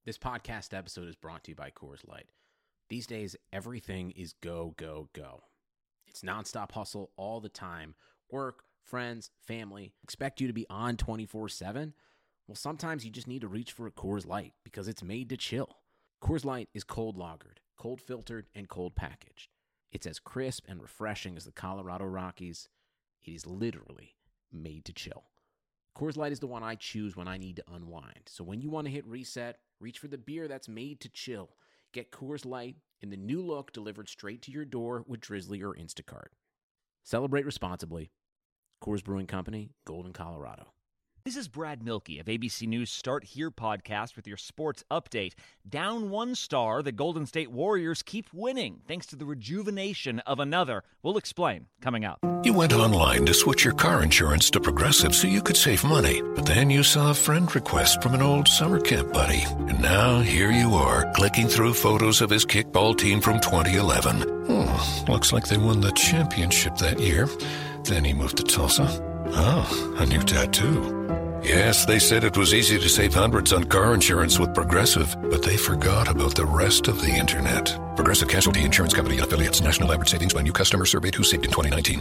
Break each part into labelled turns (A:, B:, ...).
A: This podcast episode is brought to you by Coors Light. These days, everything is go, go, go. It's nonstop hustle all the time. Work, friends, family, expect you to be on 24/7. Well, sometimes you just need to reach for a Coors Light because it's made to chill. Coors Light is cold lagered, cold filtered, and cold packaged. It's as crisp and refreshing as the Colorado Rockies. It is literally made to chill. Coors Light is the one I choose when I need to unwind. So when you want to hit reset, reach for the beer that's made to chill. Get Coors Light in the new look delivered straight to your door with Drizzly or Instacart. Celebrate responsibly. Coors Brewing Company, Golden, Colorado.
B: This is Brad Milkey of ABC News Start Here podcast with your sports update. Down one star, the Golden State Warriors keep winning thanks to the rejuvenation of another. We'll explain coming up.
C: You went online to switch your car insurance to Progressive so you could save money. But then you saw a friend request from an old summer camp buddy. And now here you are, clicking through photos of his kickball team from 2011. Looks like they won the championship that year. Then he moved to Tulsa. Oh, a new tattoo. Yes, they said it was easy to save hundreds on car insurance with Progressive, but they forgot about the rest of the internet. Progressive Casualty Insurance Company and affiliates. National average savings by new customer surveyed who saved in 2019.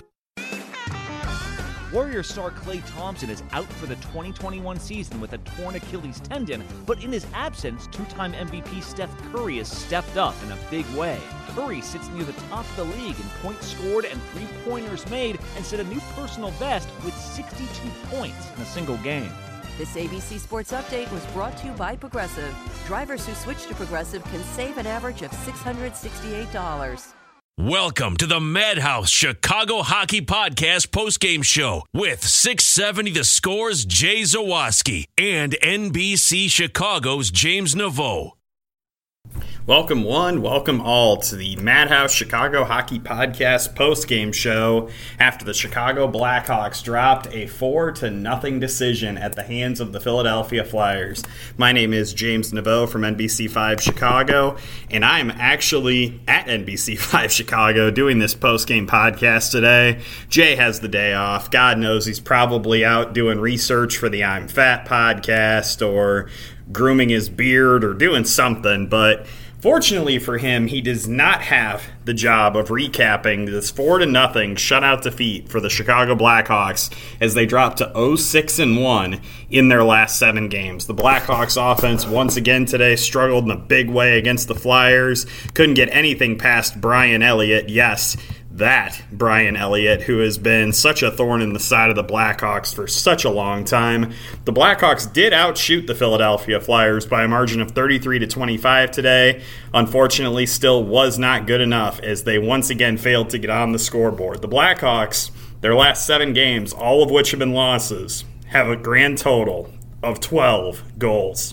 B: Warriors star Klay Thompson is out for the 2021 season with a torn Achilles tendon, but in his absence, two-time MVP Steph Curry has stepped up in a big way. Curry sits near the top of the league in points scored and three-pointers made and set a new personal best with 62 points in a single game.
D: This ABC Sports Update was brought to you by Progressive. Drivers who switch to Progressive can save an average of $668.
E: Welcome to the Madhouse Chicago Hockey Podcast postgame show with 670 The Score's Jay Zawaski and NBC Chicago's James Naveau.
F: Welcome one, welcome all to the Madhouse Chicago Hockey Podcast postgame show after the Chicago Blackhawks dropped a 4-0 decision at the hands of the Philadelphia Flyers. My name is James Naveau from NBC5 Chicago, and I'm actually at NBC5 Chicago doing this postgame podcast today. Jay has the day off. God knows he's probably out doing research for the I'm Fat podcast or grooming his beard or doing something, but fortunately for him, he does not have the job of recapping this 4-0 shutout defeat for the Chicago Blackhawks as they dropped to 0-6-1 in their last 7 games. The Blackhawks offense once again today struggled in a big way against the Flyers. Couldn't get anything past Brian Elliott. Yes, that Brian Elliott, who has been such a thorn in the side of the Blackhawks for such a long time. The Blackhawks did outshoot the Philadelphia Flyers by a margin of 33-25 today. Unfortunately, still was not good enough as they once again failed to get on the scoreboard. The Blackhawks, their last 7 games, all of which have been losses, have a grand total of 12 goals.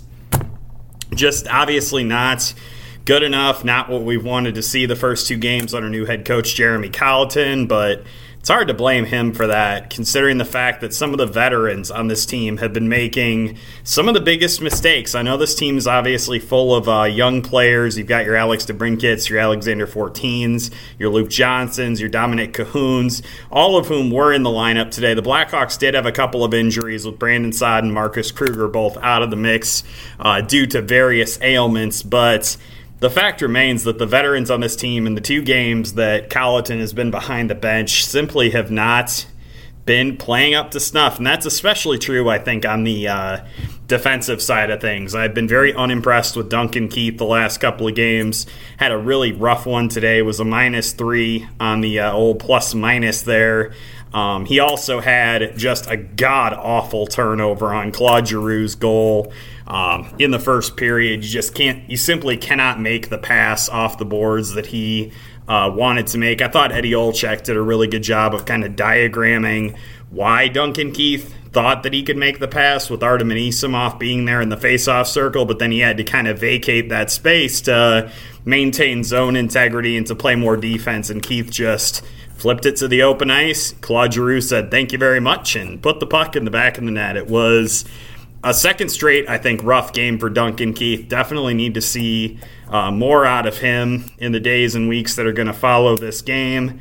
F: Just obviously not good enough, not what we wanted to see the first 2 games under new head coach Jeremy Colliton, but it's hard to blame him for that, considering the fact that some of the veterans on this team have been making some of the biggest mistakes. I know this team is obviously full of young players. You've got your Alex DeBrincats, your Alexander Fortines, your Luke Johnsons, your Dominic Cahoons, all of whom were in the lineup today. The Blackhawks did have a couple of injuries with Brandon Saad and Marcus Kruger both out of the mix due to various ailments, but the fact remains that the veterans on this team in the 2 games that Colliton has been behind the bench simply have not been playing up to snuff. And that's especially true, I think, on the defensive side of things. I've been very unimpressed with Duncan Keith the last couple of games. Had a really rough one today. Was a -3 on the old plus-minus there. He also had just a god-awful turnover on Claude Giroux's goal. In the first period, you simply cannot make the pass off the boards that he wanted to make. I thought Eddie Olczyk did a really good job of kind of diagramming why Duncan Keith thought that he could make the pass with Artem Anisimov being there in the faceoff circle, but then he had to kind of vacate that space to maintain zone integrity and to play more defense, and Keith just flipped it to the open ice. Claude Giroux said, "Thank you very much," and put the puck in the back of the net. It was a second straight, I think, rough game for Duncan Keith. Definitely need to see more out of him in the days and weeks that are going to follow this game.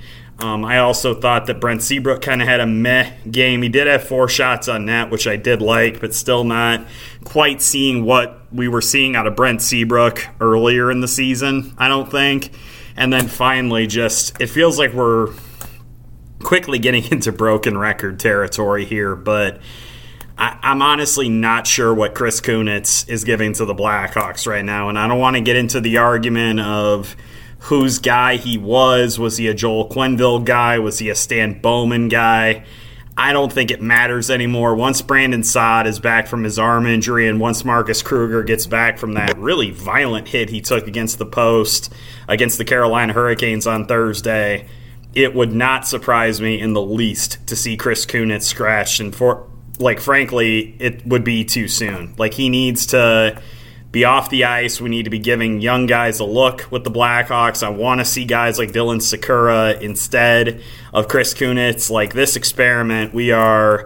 F: I also thought that Brent Seabrook kind of had a meh game. He did have 4 shots on net, which I did like, but still not quite seeing what we were seeing out of Brent Seabrook earlier in the season, I don't think. And then finally, it feels like we're quickly getting into broken record territory here, but I'm honestly not sure what Chris Kunitz is giving to the Blackhawks right now, and I don't want to get into the argument of whose guy he was. Was he a Joel Quenneville guy? Was he a Stan Bowman guy? I don't think it matters anymore. Once Brandon Saad is back from his arm injury and once Marcus Kruger gets back from that really violent hit he took against the post against the Carolina Hurricanes on Thursday, it would not surprise me in the least to see Chris Kunitz scratched. And frankly, it would be too soon. He needs to be off the ice. We need to be giving young guys a look with the Blackhawks. I want to see guys like Dylan Sikura instead of Chris Kunitz. This experiment, we are,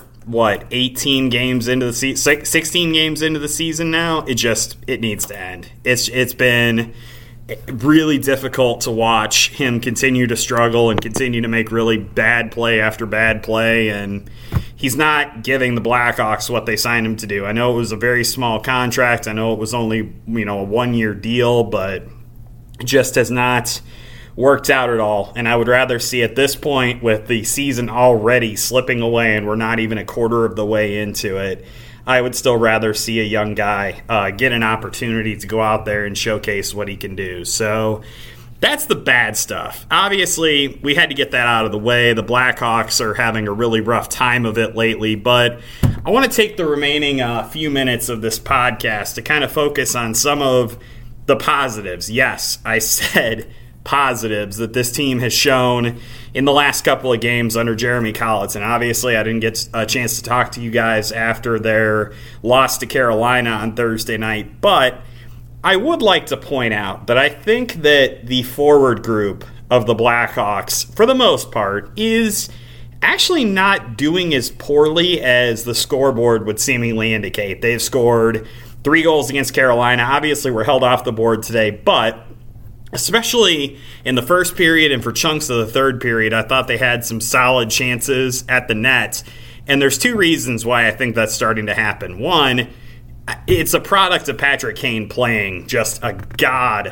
F: 18 games into the season, 16 games into the season now? It needs to end. It's been really difficult to watch him continue to struggle and continue to make really bad play after bad play, and he's not giving the Blackhawks what they signed him to do. I know it was a very small contract. I know it was only, a 1-year deal, but it just has not worked out at all. And I would rather see at this point, with the season already slipping away and we're not even a quarter of the way into it, I would still rather see a young guy get an opportunity to go out there and showcase what he can do. So that's the bad stuff. Obviously, we had to get that out of the way. The Blackhawks are having a really rough time of it lately, but I want to take the remaining few minutes of this podcast to kind of focus on some of the positives. Yes, I said positives that this team has shown in the last couple of games under Jeremy Colliton. Obviously, I didn't get a chance to talk to you guys after their loss to Carolina on Thursday night, but I would like to point out that I think that the forward group of the Blackhawks, for the most part, is actually not doing as poorly as the scoreboard would seemingly indicate. They've scored 3 goals against Carolina. Obviously, we're held off the board today, but especially in the first period and for chunks of the third period, I thought they had some solid chances at the net. And there's 2 reasons why I think that's starting to happen. One, it's a product of Patrick Kane playing just an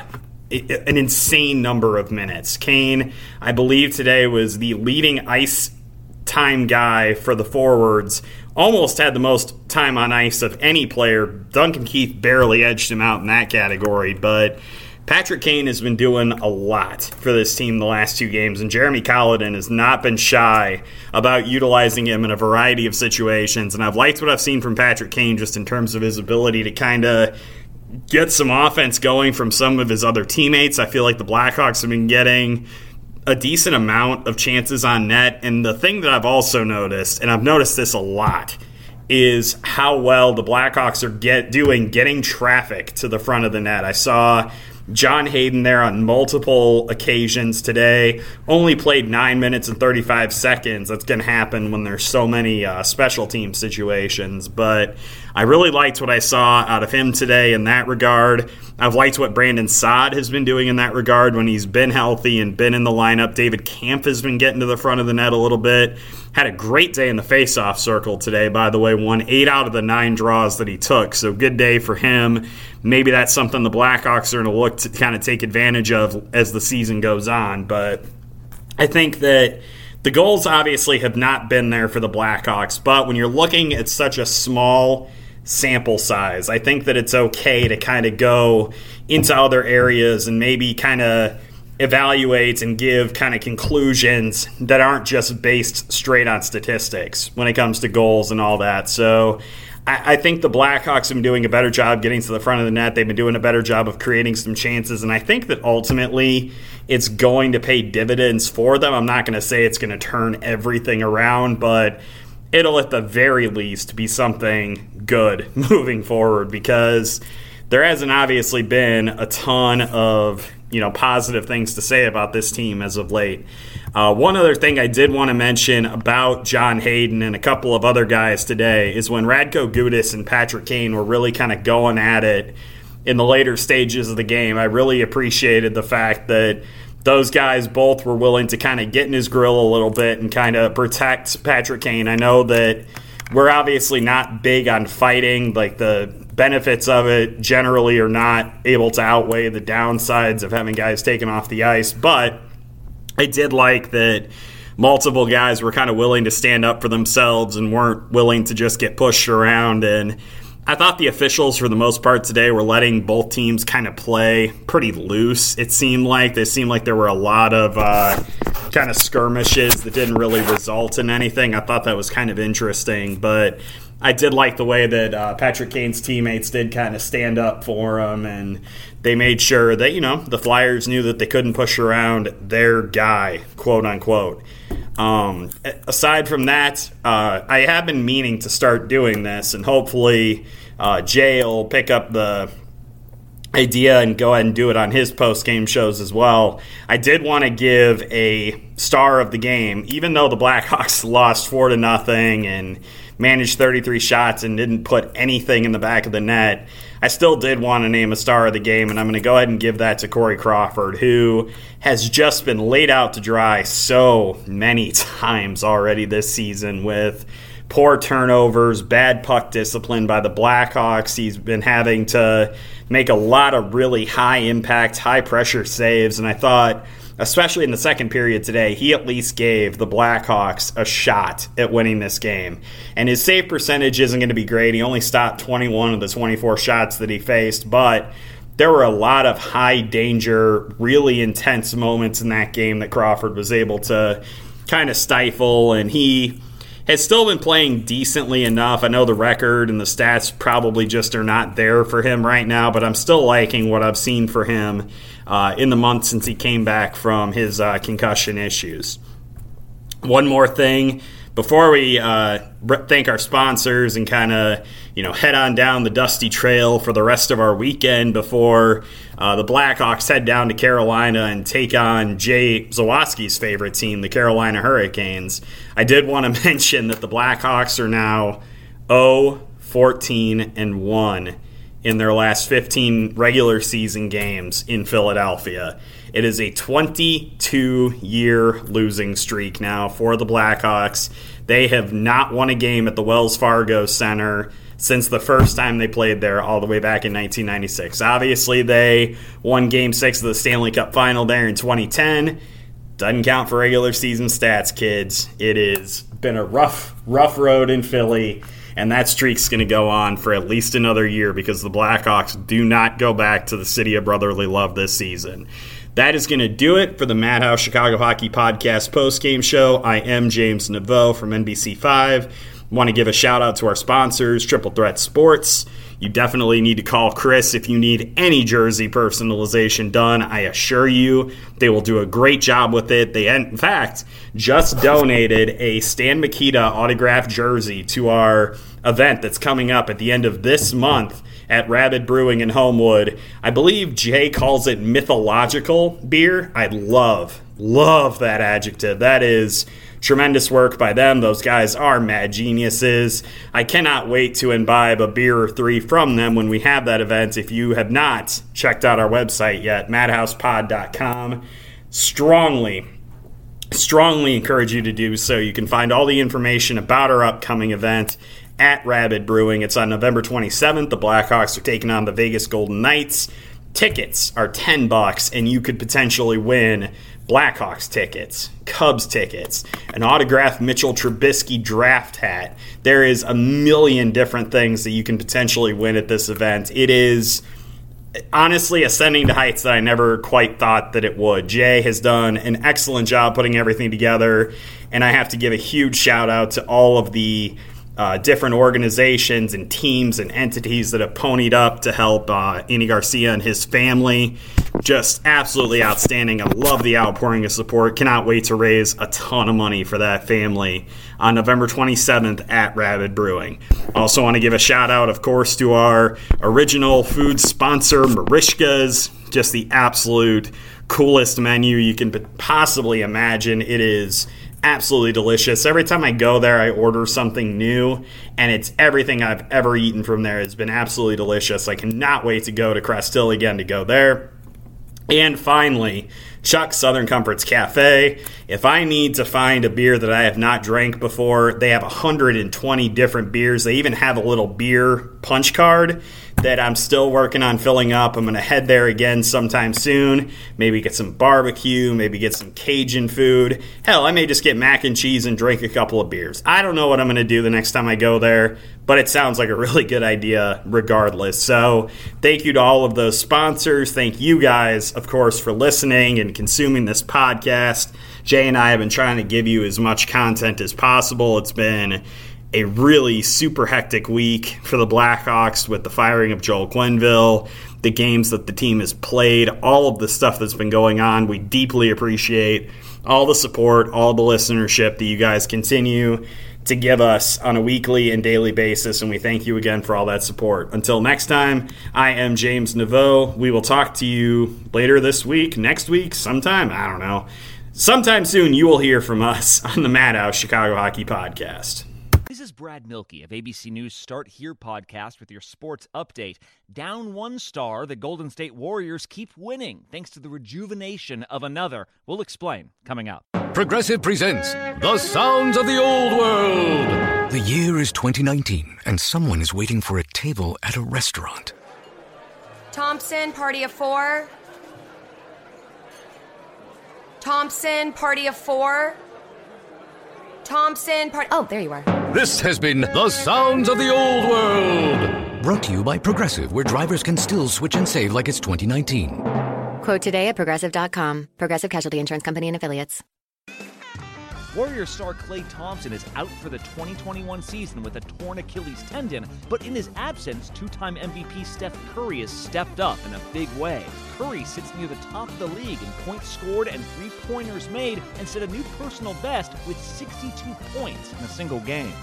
F: insane number of minutes. Kane, I believe today, was the leading ice time guy for the forwards. Almost had the most time on ice of any player. Duncan Keith barely edged him out in that category, but Patrick Kane has been doing a lot for this team the last 2 games, and Jeremy Colliton has not been shy about utilizing him in a variety of situations. And I've liked what I've seen from Patrick Kane just in terms of his ability to kind of get some offense going from some of his other teammates. I feel like the Blackhawks have been getting a decent amount of chances on net. And the thing that I've also noticed, and I've noticed this a lot, is how well the Blackhawks are doing getting traffic to the front of the net. I saw John Hayden there on multiple occasions today. Only played 9 minutes and 35 seconds. That's going to happen when there's so many special team situations. But I really liked what I saw out of him today in that regard. I've liked what Brandon Saad has been doing in that regard when he's been healthy and been in the lineup. David Kampf has been getting to the front of the net a little bit. Had a great day in the faceoff circle today, by the way. Won 8 out of the 9 draws that he took, so good day for him. Maybe that's something the Blackhawks are going to look to kind of take advantage of as the season goes on. But I think that the goals obviously have not been there for the Blackhawks, but when you're looking at such a small sample size, I think that it's okay to kind of go into other areas and maybe kind of evaluate and give kind of conclusions that aren't just based straight on statistics when it comes to goals and all that. So I think the Blackhawks have been doing a better job getting to the front of the net. They've been doing a better job of creating some chances, and I think that ultimately it's going to pay dividends for them. I'm not going to say it's going to turn everything around, but it'll at the very least be something good moving forward, because there hasn't obviously been a ton of positive things to say about this team as of late. One other thing I did want to mention about John Hayden and a couple of other guys today is when Radko Gudas and Patrick Kane were really kind of going at it in the later stages of the game, I really appreciated the fact that those guys both were willing to kind of get in his grill a little bit and kind of protect Patrick Kane. I know that we're obviously not big on fighting. Like, the benefits of it generally are not able to outweigh the downsides of having guys taken off the ice. But I did like that multiple guys were kind of willing to stand up for themselves and weren't willing to just get pushed around. And I thought the officials, for the most part today, were letting both teams kind of play pretty loose. It seemed like there were a lot of kind of skirmishes that didn't really result in anything. I thought that was kind of interesting, but I did like the way that Patrick Kane's teammates did kind of stand up for him, and they made sure that, the Flyers knew that they couldn't push around their guy, quote unquote. Aside from that, I have been meaning to start doing this, and hopefully Jay will pick up the idea and go ahead and do it on his post-game shows as well. I did want to give a star of the game, even though the Blackhawks lost 4-0 and managed 33 shots and didn't put anything in the back of the net. I still did want to name a star of the game, and I'm going to go ahead and give that to Corey Crawford, who has just been laid out to dry so many times already this season with poor turnovers, bad puck discipline by the Blackhawks. He's been having to make a lot of really high-impact, high-pressure saves, and I thought, especially in the second period today, he at least gave the Blackhawks a shot at winning this game. And his save percentage isn't going to be great. He only stopped 21 of the 24 shots that he faced, but there were a lot of high-danger, really intense moments in that game that Crawford was able to kind of stifle, and he has still been playing decently enough. I know the record and the stats probably just are not there for him right now, but I'm still liking what I've seen for him in the month since he came back from his concussion issues. One more thing before we thank our sponsors and kind of head on down the dusty trail for the rest of our weekend before the Blackhawks head down to Carolina and take on Jay Zawaski's favorite team, the Carolina Hurricanes. I did want to mention that the Blackhawks are now 0-14-1 in their last 15 regular season games in Philadelphia. It is a 22-year losing streak now for the Blackhawks. They have not won a game at the Wells Fargo Center since the first time they played there all the way back in 1996. Obviously, they won Game 6 of the Stanley Cup Final there in 2010. Doesn't count for regular season stats, kids. It has been a rough road in Philly, and that streak's going to go on for at least another year because the Blackhawks do not go back to the city of brotherly love this season. That is going to do it for the Madhouse Chicago Hockey Podcast postgame show. I am James Naveau from NBC5. Want to give a shout out to our sponsors, Triple Threat Sports. You definitely need to call Chris if you need any jersey personalization done. I assure you they will do a great job with it. They, in fact, just donated a Stan Mikita autographed jersey to our event that's coming up at the end of this month at Rabid Brewing in Homewood. I believe Jay calls it mythological beer. I love that adjective. That is tremendous work by them. Those guys are mad geniuses. I cannot wait to imbibe a beer or three from them when we have that event. If you have not checked out our website yet, madhousepod.com, strongly encourage you to do so. You can find all the information about our upcoming event at Rabid Brewing. It's on November 27th. The Blackhawks are taking on the Vegas Golden Knights. Tickets are $10, and you could potentially win Blackhawks tickets, Cubs tickets, an autographed Mitchell Trubisky draft hat. There is a million different things that you can potentially win at this event. It is honestly ascending to heights that I never quite thought that it would. Jay has done an excellent job putting everything together, and I have to give a huge shout out to all of the different organizations and teams and entities that have ponied up to help Andy Garcia and his family. Just absolutely outstanding. I love the outpouring of support. Cannot wait to raise a ton of money for that family on November 27th at Rabid Brewing. Also want to give a shout out, of course, to our original food sponsor, Marishka's. Just the absolute coolest menu you can possibly imagine. It is absolutely delicious. Every time I go there, I order something new, and it's everything I've ever eaten from there. It's been absolutely delicious. I cannot wait to go to Crest Hill again to go there. And finally, Chuck's Southern Comforts Cafe. If I need to find a beer that I have not drank before, they have 120 different beers. They even have a little beer punch card that I'm still working on filling up. I'm going to head there again sometime soon. Maybe get some barbecue, maybe get some Cajun food. Hell, I may just get mac and cheese and drink a couple of beers. I don't know what I'm going to do the next time I go there, but it sounds like a really good idea regardless. So thank you to all of those sponsors. Thank you guys, of course, for listening and consuming this podcast. Jay and I have been trying to give you as much content as possible. It's been a really super hectic week for the Blackhawks with the firing of Joel Quenneville, the games that the team has played, all of the stuff that's been going on. We deeply appreciate all the support, all the listenership that you guys continue to give us on a weekly and daily basis, and we thank you again for all that support. Until next time, I am James Naveau. We will talk to you later this week, next week, sometime, I don't know. Sometime soon you will hear from us on the Madhouse Chicago Hockey Podcast.
B: This is Brad Milkey of ABC News Start Here podcast with your sports update. Down one star, the Golden State Warriors keep winning thanks to the rejuvenation of another. We'll explain coming up.
G: Progressive presents The Sounds of the Old World.
H: The year is 2019, and someone is waiting for a table at a restaurant.
I: Thompson, party of 4. Thompson, party of 4. Thompson, party... Oh, there you are.
G: This has been The Sounds of the Old World.
H: Brought to you by Progressive, where drivers can still switch and save like it's 2019.
I: Quote today at Progressive.com. Progressive Casualty Insurance Company and Affiliates.
B: Warriors star Klay Thompson is out for the 2021 season with a torn Achilles tendon, but in his absence, two-time MVP Steph Curry has stepped up in a big way. Curry sits near the top of the league in points scored and three-pointers made and set a new personal best with 62 points in a single game.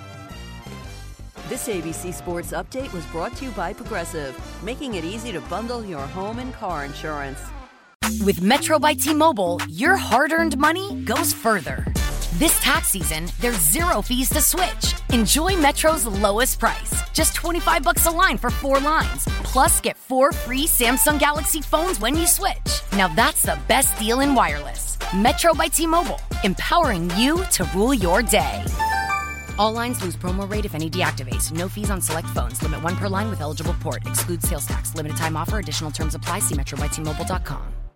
D: This ABC Sports Update was brought to you by Progressive, making it easy to bundle your home and car insurance.
J: With Metro by T-Mobile, your hard-earned money goes further. This tax season, there's zero fees to switch. Enjoy Metro's lowest price, just $25 a line for 4 lines. Plus, get 4 free Samsung Galaxy phones when you switch. Now that's the best deal in wireless. Metro by T-Mobile, empowering you to rule your day. All lines lose promo rate if any deactivates. No fees on select phones. Limit 1 per line with eligible port. Excludes sales tax. Limited time offer. Additional terms apply. See metrobystmobile.com.